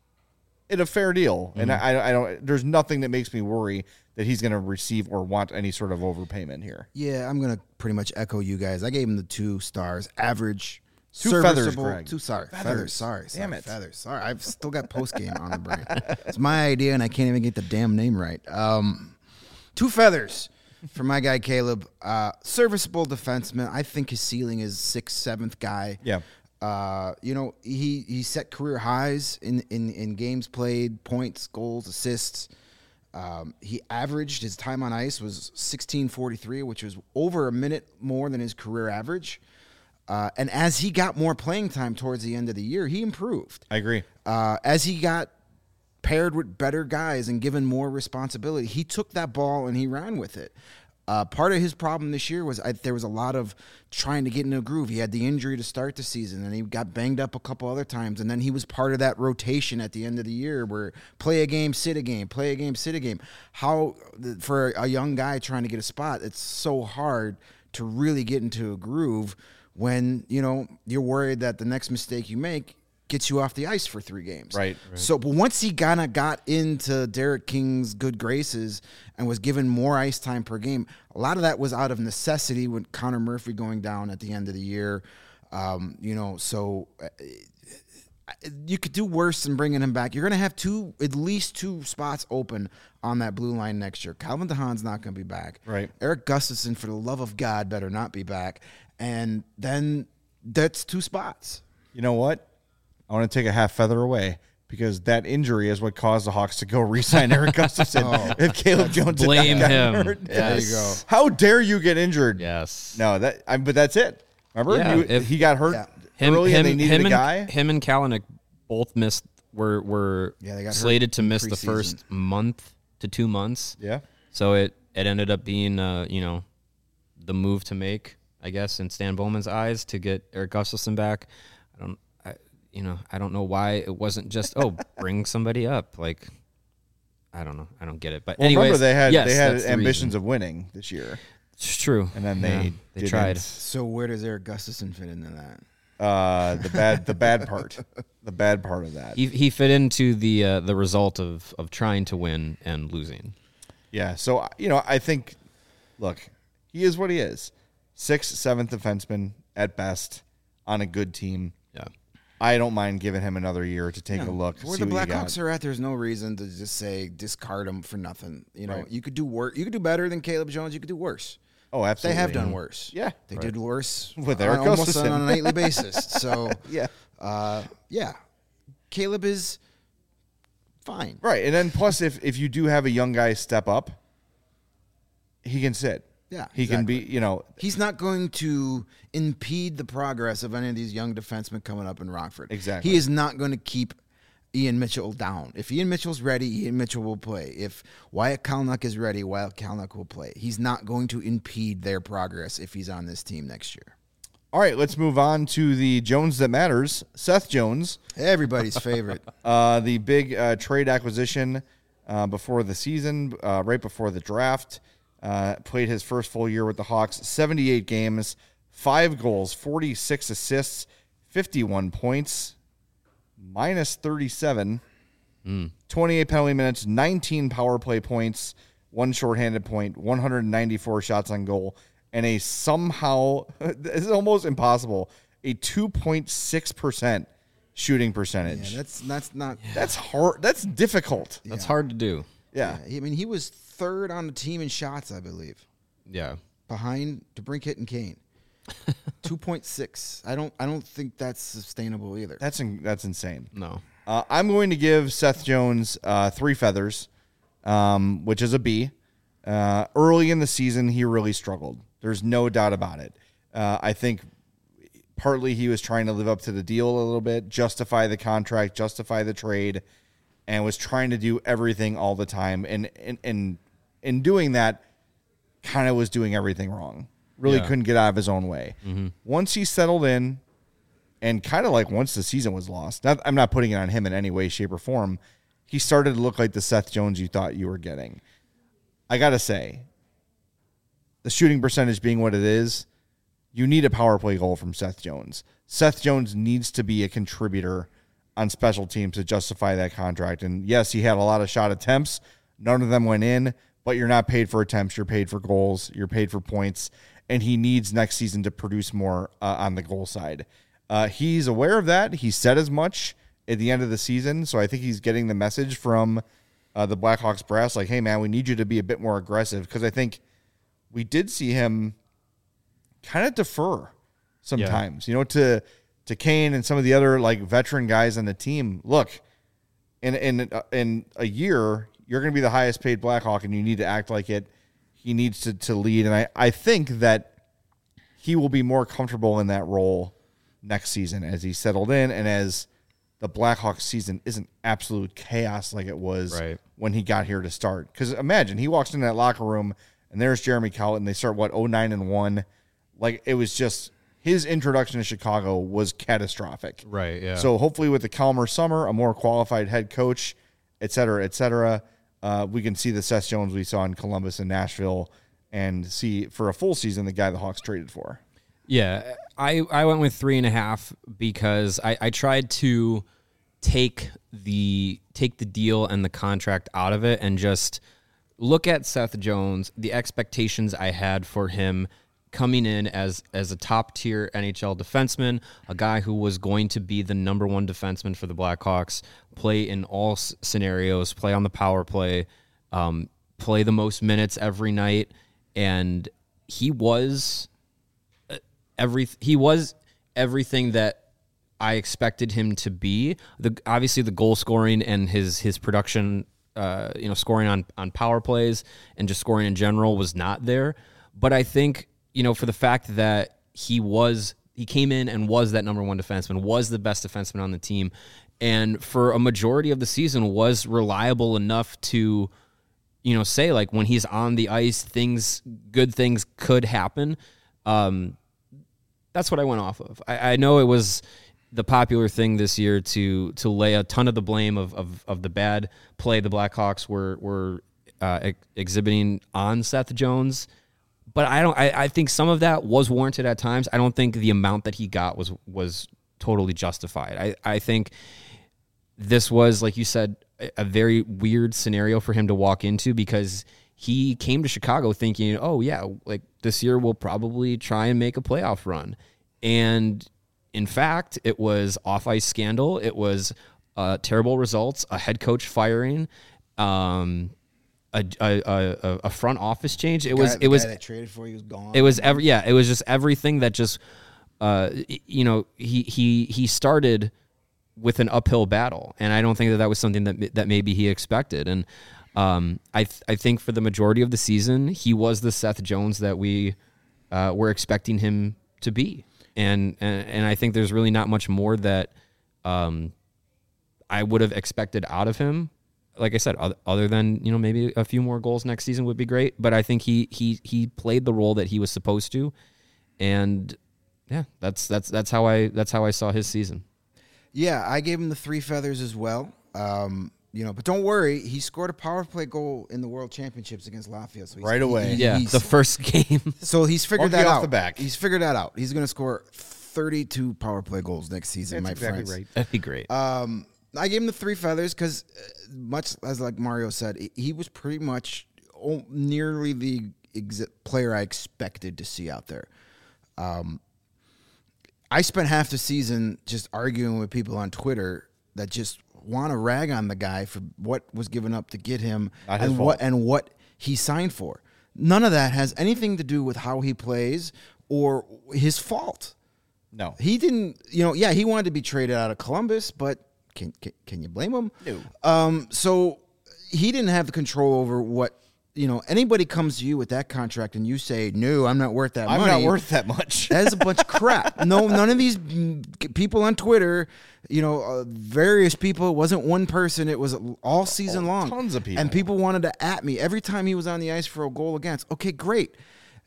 At a fair deal, mm-hmm. and I, I don't. There's nothing that makes me worry that he's going to receive or want any sort of overpayment here. Yeah, I'm going to pretty much echo you guys. I gave him the two stars, average, two feathers, serviceable. Greg. Two sorry feathers. feathers. Sorry, damn sorry, it, feathers. Sorry, I've still got post game on the brain. It's my idea, and I can't even get the damn name right. Um, two feathers for my guy Caleb. Uh, serviceable defenseman. I think his ceiling is sixth, seventh guy. Yeah. Uh, you know, he, he set career highs in, in, in games played, points, goals, assists. Um, he averaged, his time on ice was sixteen forty-three, which was over a minute more than his career average. Uh, and as he got more playing time towards the end of the year, he improved. I agree. Uh, as he got paired with better guys and given more responsibility, he took that ball and he ran with it. Uh, part of his problem this year was I, there was a lot of trying to get in a groove. He had the injury to start the season, and he got banged up a couple other times, and then he was part of that rotation at the end of the year where play a game, sit a game, play a game, sit a game. How, for a young guy trying to get a spot, it's so hard to really get into a groove when, you know, you're worried that the next mistake you make gets you off the ice for three games. Right. right. So, but once he kind of got into Derek King's good graces and was given more ice time per game, a lot of that was out of necessity with Connor Murphy going down at the end of the year. Um, you know, so uh, you could do worse than bringing him back. You're going to have two, at least two spots open on that blue line next year. Calvin DeHaan's not going to be back. Right. Eric Gustafson, for the love of God, better not be back. And then that's two spots. You know what? I want to take a half feather away because that injury is what caused the Hawks to go re-sign Eric Gustafson. Oh, if Caleb Jones blame had not him. Hurt. Yes. There you go. How dare you get injured? Yes. No, that. I, but that's it. Remember, Yeah, you, if- he got hurt Yeah. Him, early, him, and they needed him a and, guy. Him and Kalanick both missed. Were were Yeah, they got hurt slated to in miss the preseason. first month to two months. Yeah. So it it ended up being uh you know the move to make. I guess, in Stan Bowman's eyes to get Erik Gustafsson back. I don't, I, you know, I don't know why it wasn't just, oh, bring somebody up. Like, I don't know. I don't get it. But well, anyways, remember they had yes, they had the ambitions reason. of winning this year. It's true. And then yeah, they they didn't. tried. So where does Erik Gustafsson fit into that? Uh, the bad the bad part, the bad part of that. He he fit into the uh, the result of of trying to win and losing. Yeah. So you know, I think, look, he is what he is, sixth, seventh defenseman at best on a good team. Yeah. I don't mind giving him another year to take No, a look. Where see the what you Blackhawks got. are at, there's no reason to just say discard him for nothing. You know, Right. you could do worse. You could do better than Caleb Jones. You could do worse. Oh, They absolutely. have done worse. Yeah. They did worse With on- Erik almost on, Gustafsson. on a nightly basis. So Yeah. uh, yeah, Caleb is fine. Right. And then plus, if if you do have a young guy step up, he can sit. Yeah, He can be. exactly. You know. He's not going to impede the progress of any of these young defensemen coming up in Rockford. Exactly. He is not going to keep Ian Mitchell down. If Ian Mitchell's ready, Ian Mitchell will play. If Wyatt Kalynuk is ready, Wyatt Kalynuk will play. He's not going to impede their progress if he's on this team next year. All right. Let's move on to the Jones that matters. Seth Jones. Everybody's favorite. Uh, the big uh, trade acquisition uh, before the season, uh, right before the draft. Uh, played his first full year with the Hawks, seventy-eight games, five goals, forty-six assists, fifty-one points, minus thirty-seven, Mm. twenty-eight penalty minutes, nineteen power play points, one shorthanded point, one hundred ninety-four shots on goal, and a somehow, this is almost impossible, a two point six percent shooting percentage. Yeah, that's that's not. That's hard. That's difficult. That's hard to do. Yeah. I mean, he was third on the team in shots, I believe, Yeah. behind DeBrincat and Kane. two point six. I don't. I don't think that's sustainable either. That's in, that's insane. No. Uh, I'm going to give Seth Jones uh, three feathers, um, which is a B. Uh, early in the season, he really struggled. There's no doubt about it. Uh, I think partly he was trying to live up to the deal a little bit, justify the contract, justify the trade, and was trying to do everything all the time. And and, and in doing that, kind of was doing everything wrong. Really Yeah. couldn't get out of his own way. Mm-hmm. Once he settled in, and kind of like once the season was lost, not, I'm not putting it on him in any way, shape, or form, he started to look like the Seth Jones you thought you were getting. I got to say, the shooting percentage being what it is, you need a power play goal from Seth Jones. Seth Jones needs to be a contributor on special teams to justify that contract. And yes, he had a lot of shot attempts. None of them went in, but you're not paid for attempts. You're paid for goals. You're paid for points. And he needs next season to produce more uh, on the goal side. Uh, he's aware of that. He said as much at the end of the season. So I think he's getting the message from uh, the Blackhawks brass, like, hey, man, we need you to be a bit more aggressive. Because I think we did see him kind of defer sometimes, yeah. you know, to to Kane and some of the other like veteran guys on the team. Look, in in uh, in a year, you're going to be the highest paid Blackhawk, and you need to act like it. He needs to to lead, and I I think that he will be more comfortable in that role next season as he settled in, and as the Blackhawks season isn't absolute chaos like it was right. when he got here to start. Because imagine he walks into that locker room and there's Jeremy Colliton. They start what oh nine and one. Like it was just his introduction to Chicago was catastrophic. Right. Yeah. So hopefully with the calmer summer, a more qualified head coach, et cetera, et cetera, uh, we can see the Seth Jones we saw in Columbus and Nashville, and see for a full season the guy the Hawks traded for. Yeah, I, I went with three and a half because I, I tried to take the take the deal and the contract out of it and just look at Seth Jones, the expectations I had for him coming in as as a top tier N H L defenseman, a guy who was going to be the number one defenseman for the Blackhawks, play in all s- scenarios, play on the power play, um, play the most minutes every night, and he was. Every he was everything that I expected him to be. The obviously the goal scoring and his his production, uh, you know, scoring on on power plays and just scoring in general was not there. But I think, you know, for the fact that he was he came in and was that number one defenseman, was the best defenseman on the team, and for a majority of the season was reliable enough to, you know, say like when he's on the ice, things good things could happen. Um, that's what I went off of. I, I know it was the popular thing this year to to lay a ton of the blame of of, of the bad play the Blackhawks were were uh, ex- exhibiting on Seth Jones. But I don't. I, I think some of that was warranted at times. I don't think the amount that he got was was totally justified. I, I think this was, like you said, a, a very weird scenario for him to walk into because he came to Chicago thinking, oh yeah, like this year we'll probably try and make a playoff run, and in fact, it was off-ice scandal. It was uh, terrible results, a head coach firing. Um, A, a, a, a front office change. It The was guy- it the was guy that traded for you was gone. it was every yeah it was just everything that just uh you know he he he started with an uphill battle, and I don't think that that was something that that maybe he expected. And um I th- I think for the majority of the season he was the Seth Jones that we uh, were expecting him to be, and and and I think there's really not much more that um I would have expected out of him. Like I said, other than, you know, maybe a few more goals next season would be great. But I think he he he played the role that he was supposed to, and yeah, that's that's that's how I that's how I saw his season. Yeah, I gave him the three feathers as well. Um, you know, but don't worry, he scored a power play goal in the World Championships against Latvia. So he's, Right away. he- Yeah, he's- the first game. so he's figured Monkey that off out. the back. He's figured that out. He's going to score thirty-two power play goals next season, That's my exactly friends. right. That'd be great. Um, I gave him the three feathers because, uh, much as like Mario said, he- he was pretty much o- nearly the ex- player I expected to see out there. Um, I spent half the season just arguing with people on Twitter that just want to rag on the guy for what was given up to get him Not his and fault. what and what he signed for. None of that has anything to do with how he plays or his fault. No. He didn't, you know, yeah, he wanted to be traded out of Columbus, but can can, can you blame him? No. Um, so he didn't have the control over what, you know, anybody comes to you with that contract and you say, no, I'm not worth that I'm money. not worth that much. That is a bunch of crap. No, none of these mm, people on Twitter, you know, uh, various people, it wasn't one person, it was all season Oh, long. tons of people. And people wanted to at me every time he was on the ice for a goal against. Okay, great.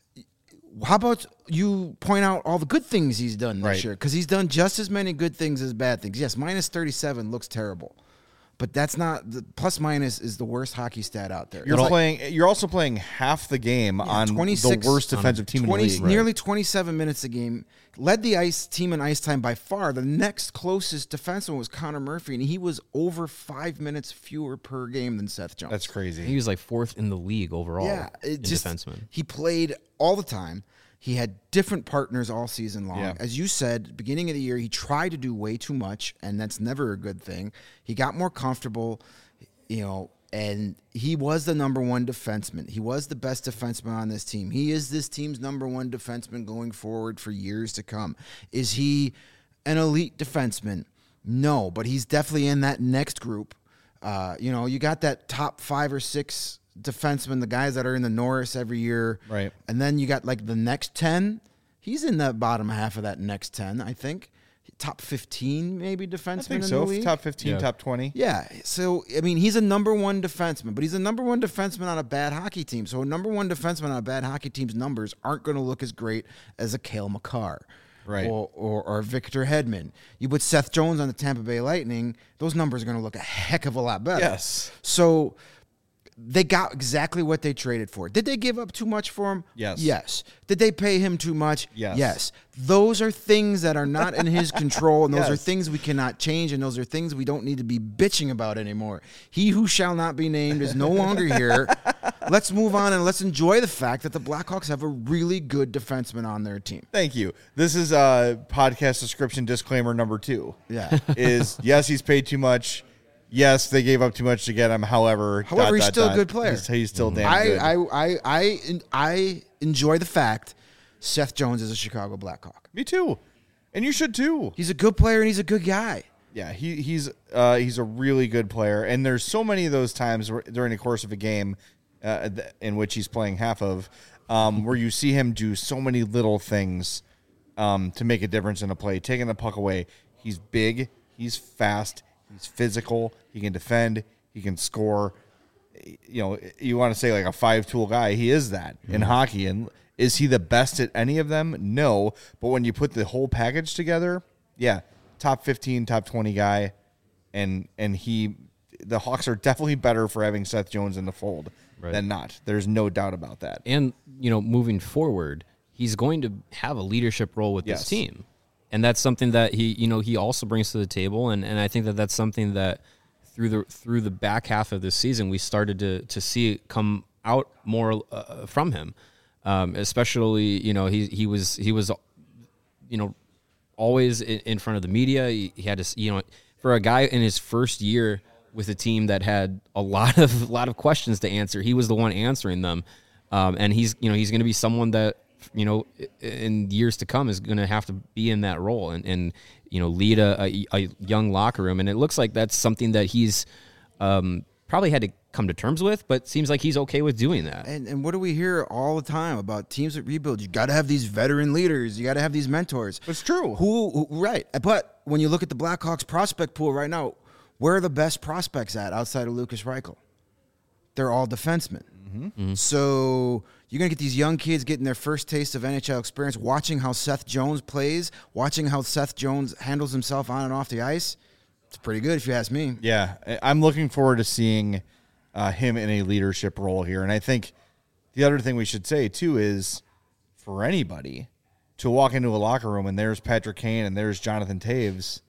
How about you point out all the good things he's done this Right. year? Because he's done just as many good things as bad things. Yes, minus thirty-seven looks terrible, but that's not the plus minus is the worst hockey stat out there. You're It's like playing. You're also playing half the game on twenty-six the worst defensive team twenty, in the league. nearly twenty-seven minutes a game. Led the ice team in ice time by far. The next closest defenseman was Connor Murphy, and he was over five minutes fewer per game than Seth Jones. That's crazy. He was like fourth in the league overall. Yeah, in it just defenseman. he played all the time. He had different partners all season long. Yeah. As you said, beginning of the year, he tried to do way too much, and that's never a good thing. He got more comfortable, you know, and he was the number one defenseman. He was the best defenseman on this team. He is this team's number one defenseman going forward for years to come. Is he an elite defenseman? No, but he's definitely in that next group. Uh, you know, you got that top five or six defensemen, the guys that are in the Norris every year. Right. And then you got like the next ten. He's in the bottom half of that next ten, I think. Top fifteen, maybe, defenseman I think in so. the league. Top fifteen, Yeah. top twenty. Yeah. So, I mean, he's a number one defenseman, but he's a number one defenseman on a bad hockey team. So, a number one defenseman on a bad hockey team's numbers aren't going to look as great as a Cale Makar. Right. Or, or, or Victor Hedman. You put Seth Jones on the Tampa Bay Lightning, those numbers are going to look a heck of a lot better. Yes. So, they got exactly what they traded for. Did they give up too much for him? Yes. Yes. Did they pay him too much? Yes. Yes. Those are things that are not in his control, and those Yes. are things we cannot change, and those are things we don't need to be bitching about anymore. He who shall not be named is no longer here. Let's move on and let's enjoy the fact that the Blackhawks have a really good defenseman on their team. Thank you. This is uh, podcast description disclaimer number two. Yeah. Is yes, he's paid too much. Yes, they gave up too much to get him. However, However, dot, he's dot, still a dot. good player. He's, he's still damn I, good. I, I, I, I enjoy the fact Seth Jones is a Chicago Blackhawk. Me too, and you should too. He's a good player and he's a good guy. Yeah, he he's uh, he's a really good player, and there's so many of those times where, during the course of a game uh, th- in which he's playing half of, um, where you see him do so many little things um, to make a difference in a play, taking the puck away. He's big, he's fast, he's physical, he can defend, he can score. You know, you want to say like a five-tool guy. He is that in hockey, and Is he the best at any of them? No. But when you put the whole package together, yeah, top fifteen, top twenty guy. And and he, the Hawks are definitely better for having Seth Jones in the fold right. than not. There's no doubt about that. And, you know, moving forward, he's going to have a leadership role with yes. this team. And that's something that he, you know, he also brings to the table. And, and I think that that's something that through the through the back half of this season, we started to to see it come out more uh, from him. Um, especially, you know, he he was he was, you know, always in, in front of the media. He, he had to, you know, for a guy in his first year with a team that had a lot of a lot of questions to answer, he was the one answering them. Um, and he's, you know, he's going to be someone that, you know, in years to come is going to have to be in that role and, and you know, lead a, a, a young locker room. And it looks like that's something that he's um, probably had to come to terms with, but seems like he's okay with doing that. And and what do we hear all the time about teams that rebuild? You got to have these veteran leaders. You got to have these mentors. It's true. Who, who right? But when you look at the Blackhawks prospect pool right now, where are the best prospects at outside of Lucas Reichel? They're all defensemen. Mm-hmm. Mm-hmm. So you're going to get these young kids getting their first taste of N H L experience, watching how Seth Jones plays, watching how Seth Jones handles himself on and off the ice. It's pretty good if you ask me. Yeah, I'm looking forward to seeing uh, him in a leadership role here. And I think the other thing we should say, too, is for anybody to walk into a locker room and there's Patrick Kane and there's Jonathan Toews,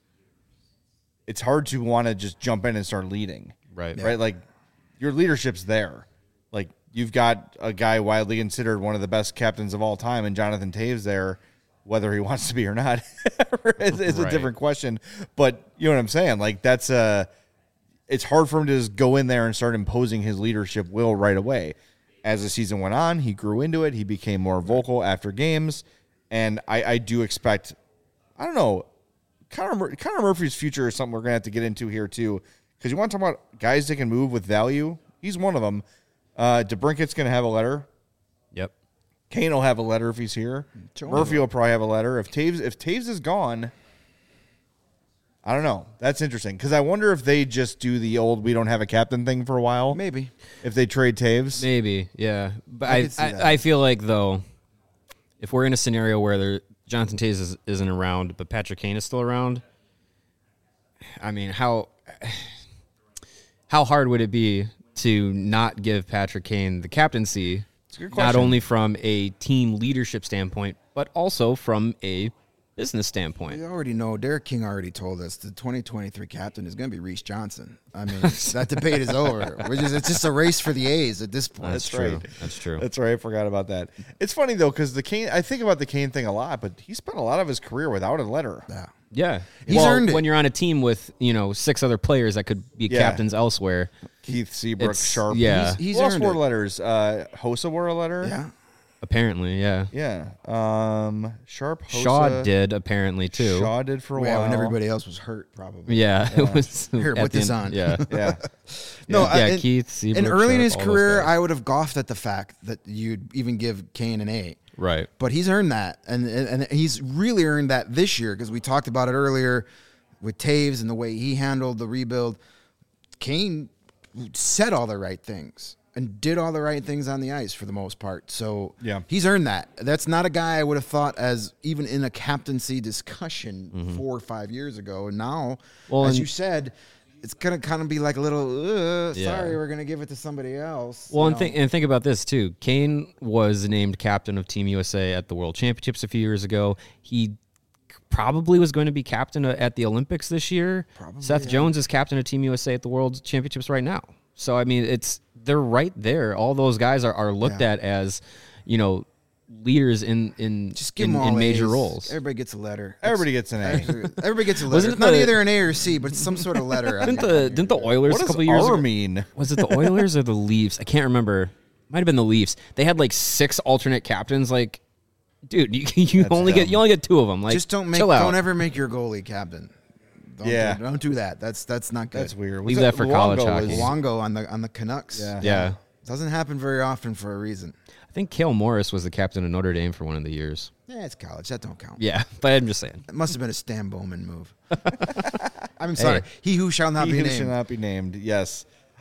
it's hard to want to just jump in and start leading. Right. Right? Like, your leadership's there. Like, you've got a guy widely considered one of the best captains of all time, and Jonathan Toews there, whether he wants to be or not, is, is a right. different question. But you know what I'm saying? Like, that's a, it's hard for him to just go in there and start imposing his leadership will right away. As the season went on, he grew into it. He became more vocal after games. And I, I do expect, I don't know, Connor, Mur- Connor Murphy's future is something we're going to have to get into here, too. Because you want to talk about guys that can move with value? He's one of them. Uh, DeBrincat's going to have a letter. Yep. Kane will have a letter if he's here. Sure. Murphy will probably have a letter. If Taves, if Taves is gone, I don't know. That's interesting. Because I wonder if they just do the old we don't have a captain thing for a while. Maybe. If they trade Taves. Maybe, yeah. But I I, could see I, that. I feel like, though, if we're in a scenario where there, Jonathan Toews is, isn't around, but Patrick Kane is still around, I mean, how how hard would it be to not give Patrick Kane the captaincy, not only from a team leadership standpoint, but also from a business standpoint? We already know, Derek King already told us the twenty twenty-three captain is going to be Reese Johnson. I mean, that debate is over. We're just, it's just a race for the A's at this point. That's, That's true. right. That's true. That's right. I forgot about that. It's funny, though, because the Kane, I think about the Kane thing a lot, but he spent a lot of his career without a letter. Yeah. Yeah. He's well, earned it. when you're on a team with, you know, six other players that could be Yeah. captains elsewhere. Keith Seabrook, It's- Sharp. yeah. He's, He's who else earned wore it. letters? Uh, Hossa wore a letter. Yeah. Apparently, yeah. Yeah. Um, Sharp, Hossa. Shaw did, apparently, too. Shaw did for a Yeah, while. when everybody else was hurt, probably. Yeah, it was. Here, at put the this end- on. Yeah. Yeah. No, Yeah, I- and- Keith, Seabrook, And early in Sharp, his all those career, guys. I would have goughed at the fact that you'd even give Kane an A. Right. But he's earned that, and and, and he's really earned that this year because we talked about it earlier with Taves and the way he handled the rebuild. Kane said all the right things and did all the right things on the ice for the most part. So Yeah. he's earned that. That's not a guy I would have thought as even in a captaincy discussion Mm-hmm. four or five years ago. And now, Well, as and- you said, it's gonna kind of be like a little. Uh, Yeah. Sorry, we're gonna give it to somebody else. Well, you and know? think and think about this too. Kane was named captain of Team U S A at the World Championships a few years ago. He probably was going to be captain at the Olympics this year. Probably, Seth yeah. Jones is captain of Team U S A at the World Championships right now. So I mean, it's they're right there. All those guys are, are looked Yeah. at as, you know, leaders in in Just give in, them all in major A's. roles. Everybody gets a letter. Everybody gets an A. Actually, everybody gets a letter. Wasn't It's not the- either an A or a C, but it's some sort of letter. Didn't the didn't the Oilers What a does couple years R ago? mean? Was it the Oilers or the Leafs? I can't remember. Might have been the Leafs. They had like six alternate captains. Like, dude, you you That's only dumb. get you only get two of them. Like, Just don't make. chill out. Don't ever make your goalie captain. Don't Yeah. do, don't do that. That's that's not good. That's weird. Leave Was that for college Luongo hockey. was- Luongo on the on the Canucks. Yeah. Yeah, Doesn't happen very often for a reason. I think Cale Morris was the captain of Notre Dame for one of the years. Yeah, it's college. That don't count. Yeah, but I'm just saying. It must have been a Stan Bowman move. I'm sorry. Hey. He who shall not He be who named. should not be named. Yes.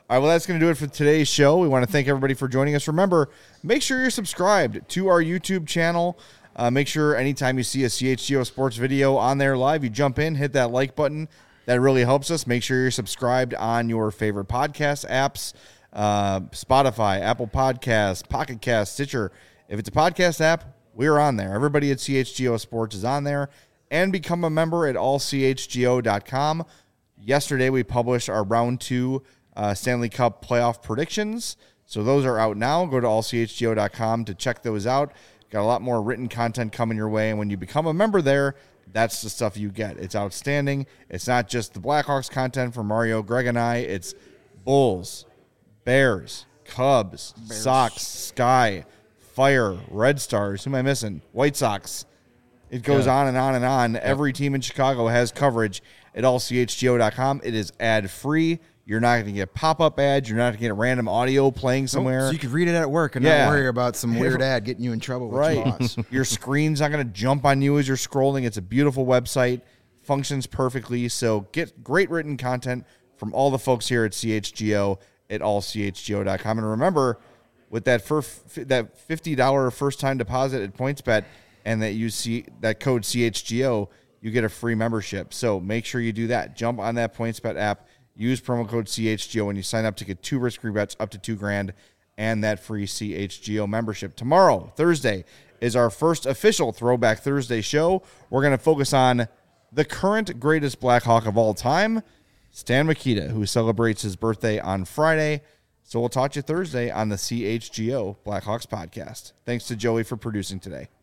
All right, well, that's going to do it for today's show. We want to thank everybody for joining us. Remember, make sure you're subscribed to our YouTube channel. Uh, make sure anytime you see a C H G O Sports video on there live, you jump in, hit that like button. That really helps us. Make sure you're subscribed on your favorite podcast apps, uh, Spotify, Apple Podcasts, Pocket Cast, Stitcher. If it's a podcast app, we're on there. Everybody at C H G O Sports is on there. And become a member at all c h g o dot com. Yesterday, we published our round two uh, Stanley Cup playoff predictions. So those are out now. Go to all c h g o dot com to check those out. Got a lot more written content coming your way. And when you become a member there, that's the stuff you get. It's outstanding. It's not just the Blackhawks content from Mario, Greg, and I. It's Bulls, Bears, Cubs, Bears. Sox, Sky, Fire, Red Stars. Who am I missing? White Sox. It goes yeah. on and on and on. Yep. Every team in Chicago has coverage at all c h g o dot com. It is ad-free. You're not going to get pop-up ads. You're not going to get random audio playing somewhere. So you can read it at work and yeah. not worry about some weird ad getting you in trouble with right. your boss. Your screen's not going to jump on you as you're scrolling. It's a beautiful website. Functions perfectly. So get great written content from all the folks here at C H G O at all c h g o dot com. And remember, with that first, that fifty dollars first-time deposit at PointsBet and that you see that code C H G O, you get a free membership. So make sure you do that. Jump on that PointsBet app. Use promo code C H G O when you sign up to get two risk-free bets up to two grand and that free C H G O membership. Tomorrow, Thursday, is our first official Throwback Thursday show. We're going to focus on the current greatest Blackhawk of all time, Stan Mikita, who celebrates his birthday on Friday. So we'll talk to you Thursday on the C H G O Blackhawks podcast. Thanks to Joey for producing today.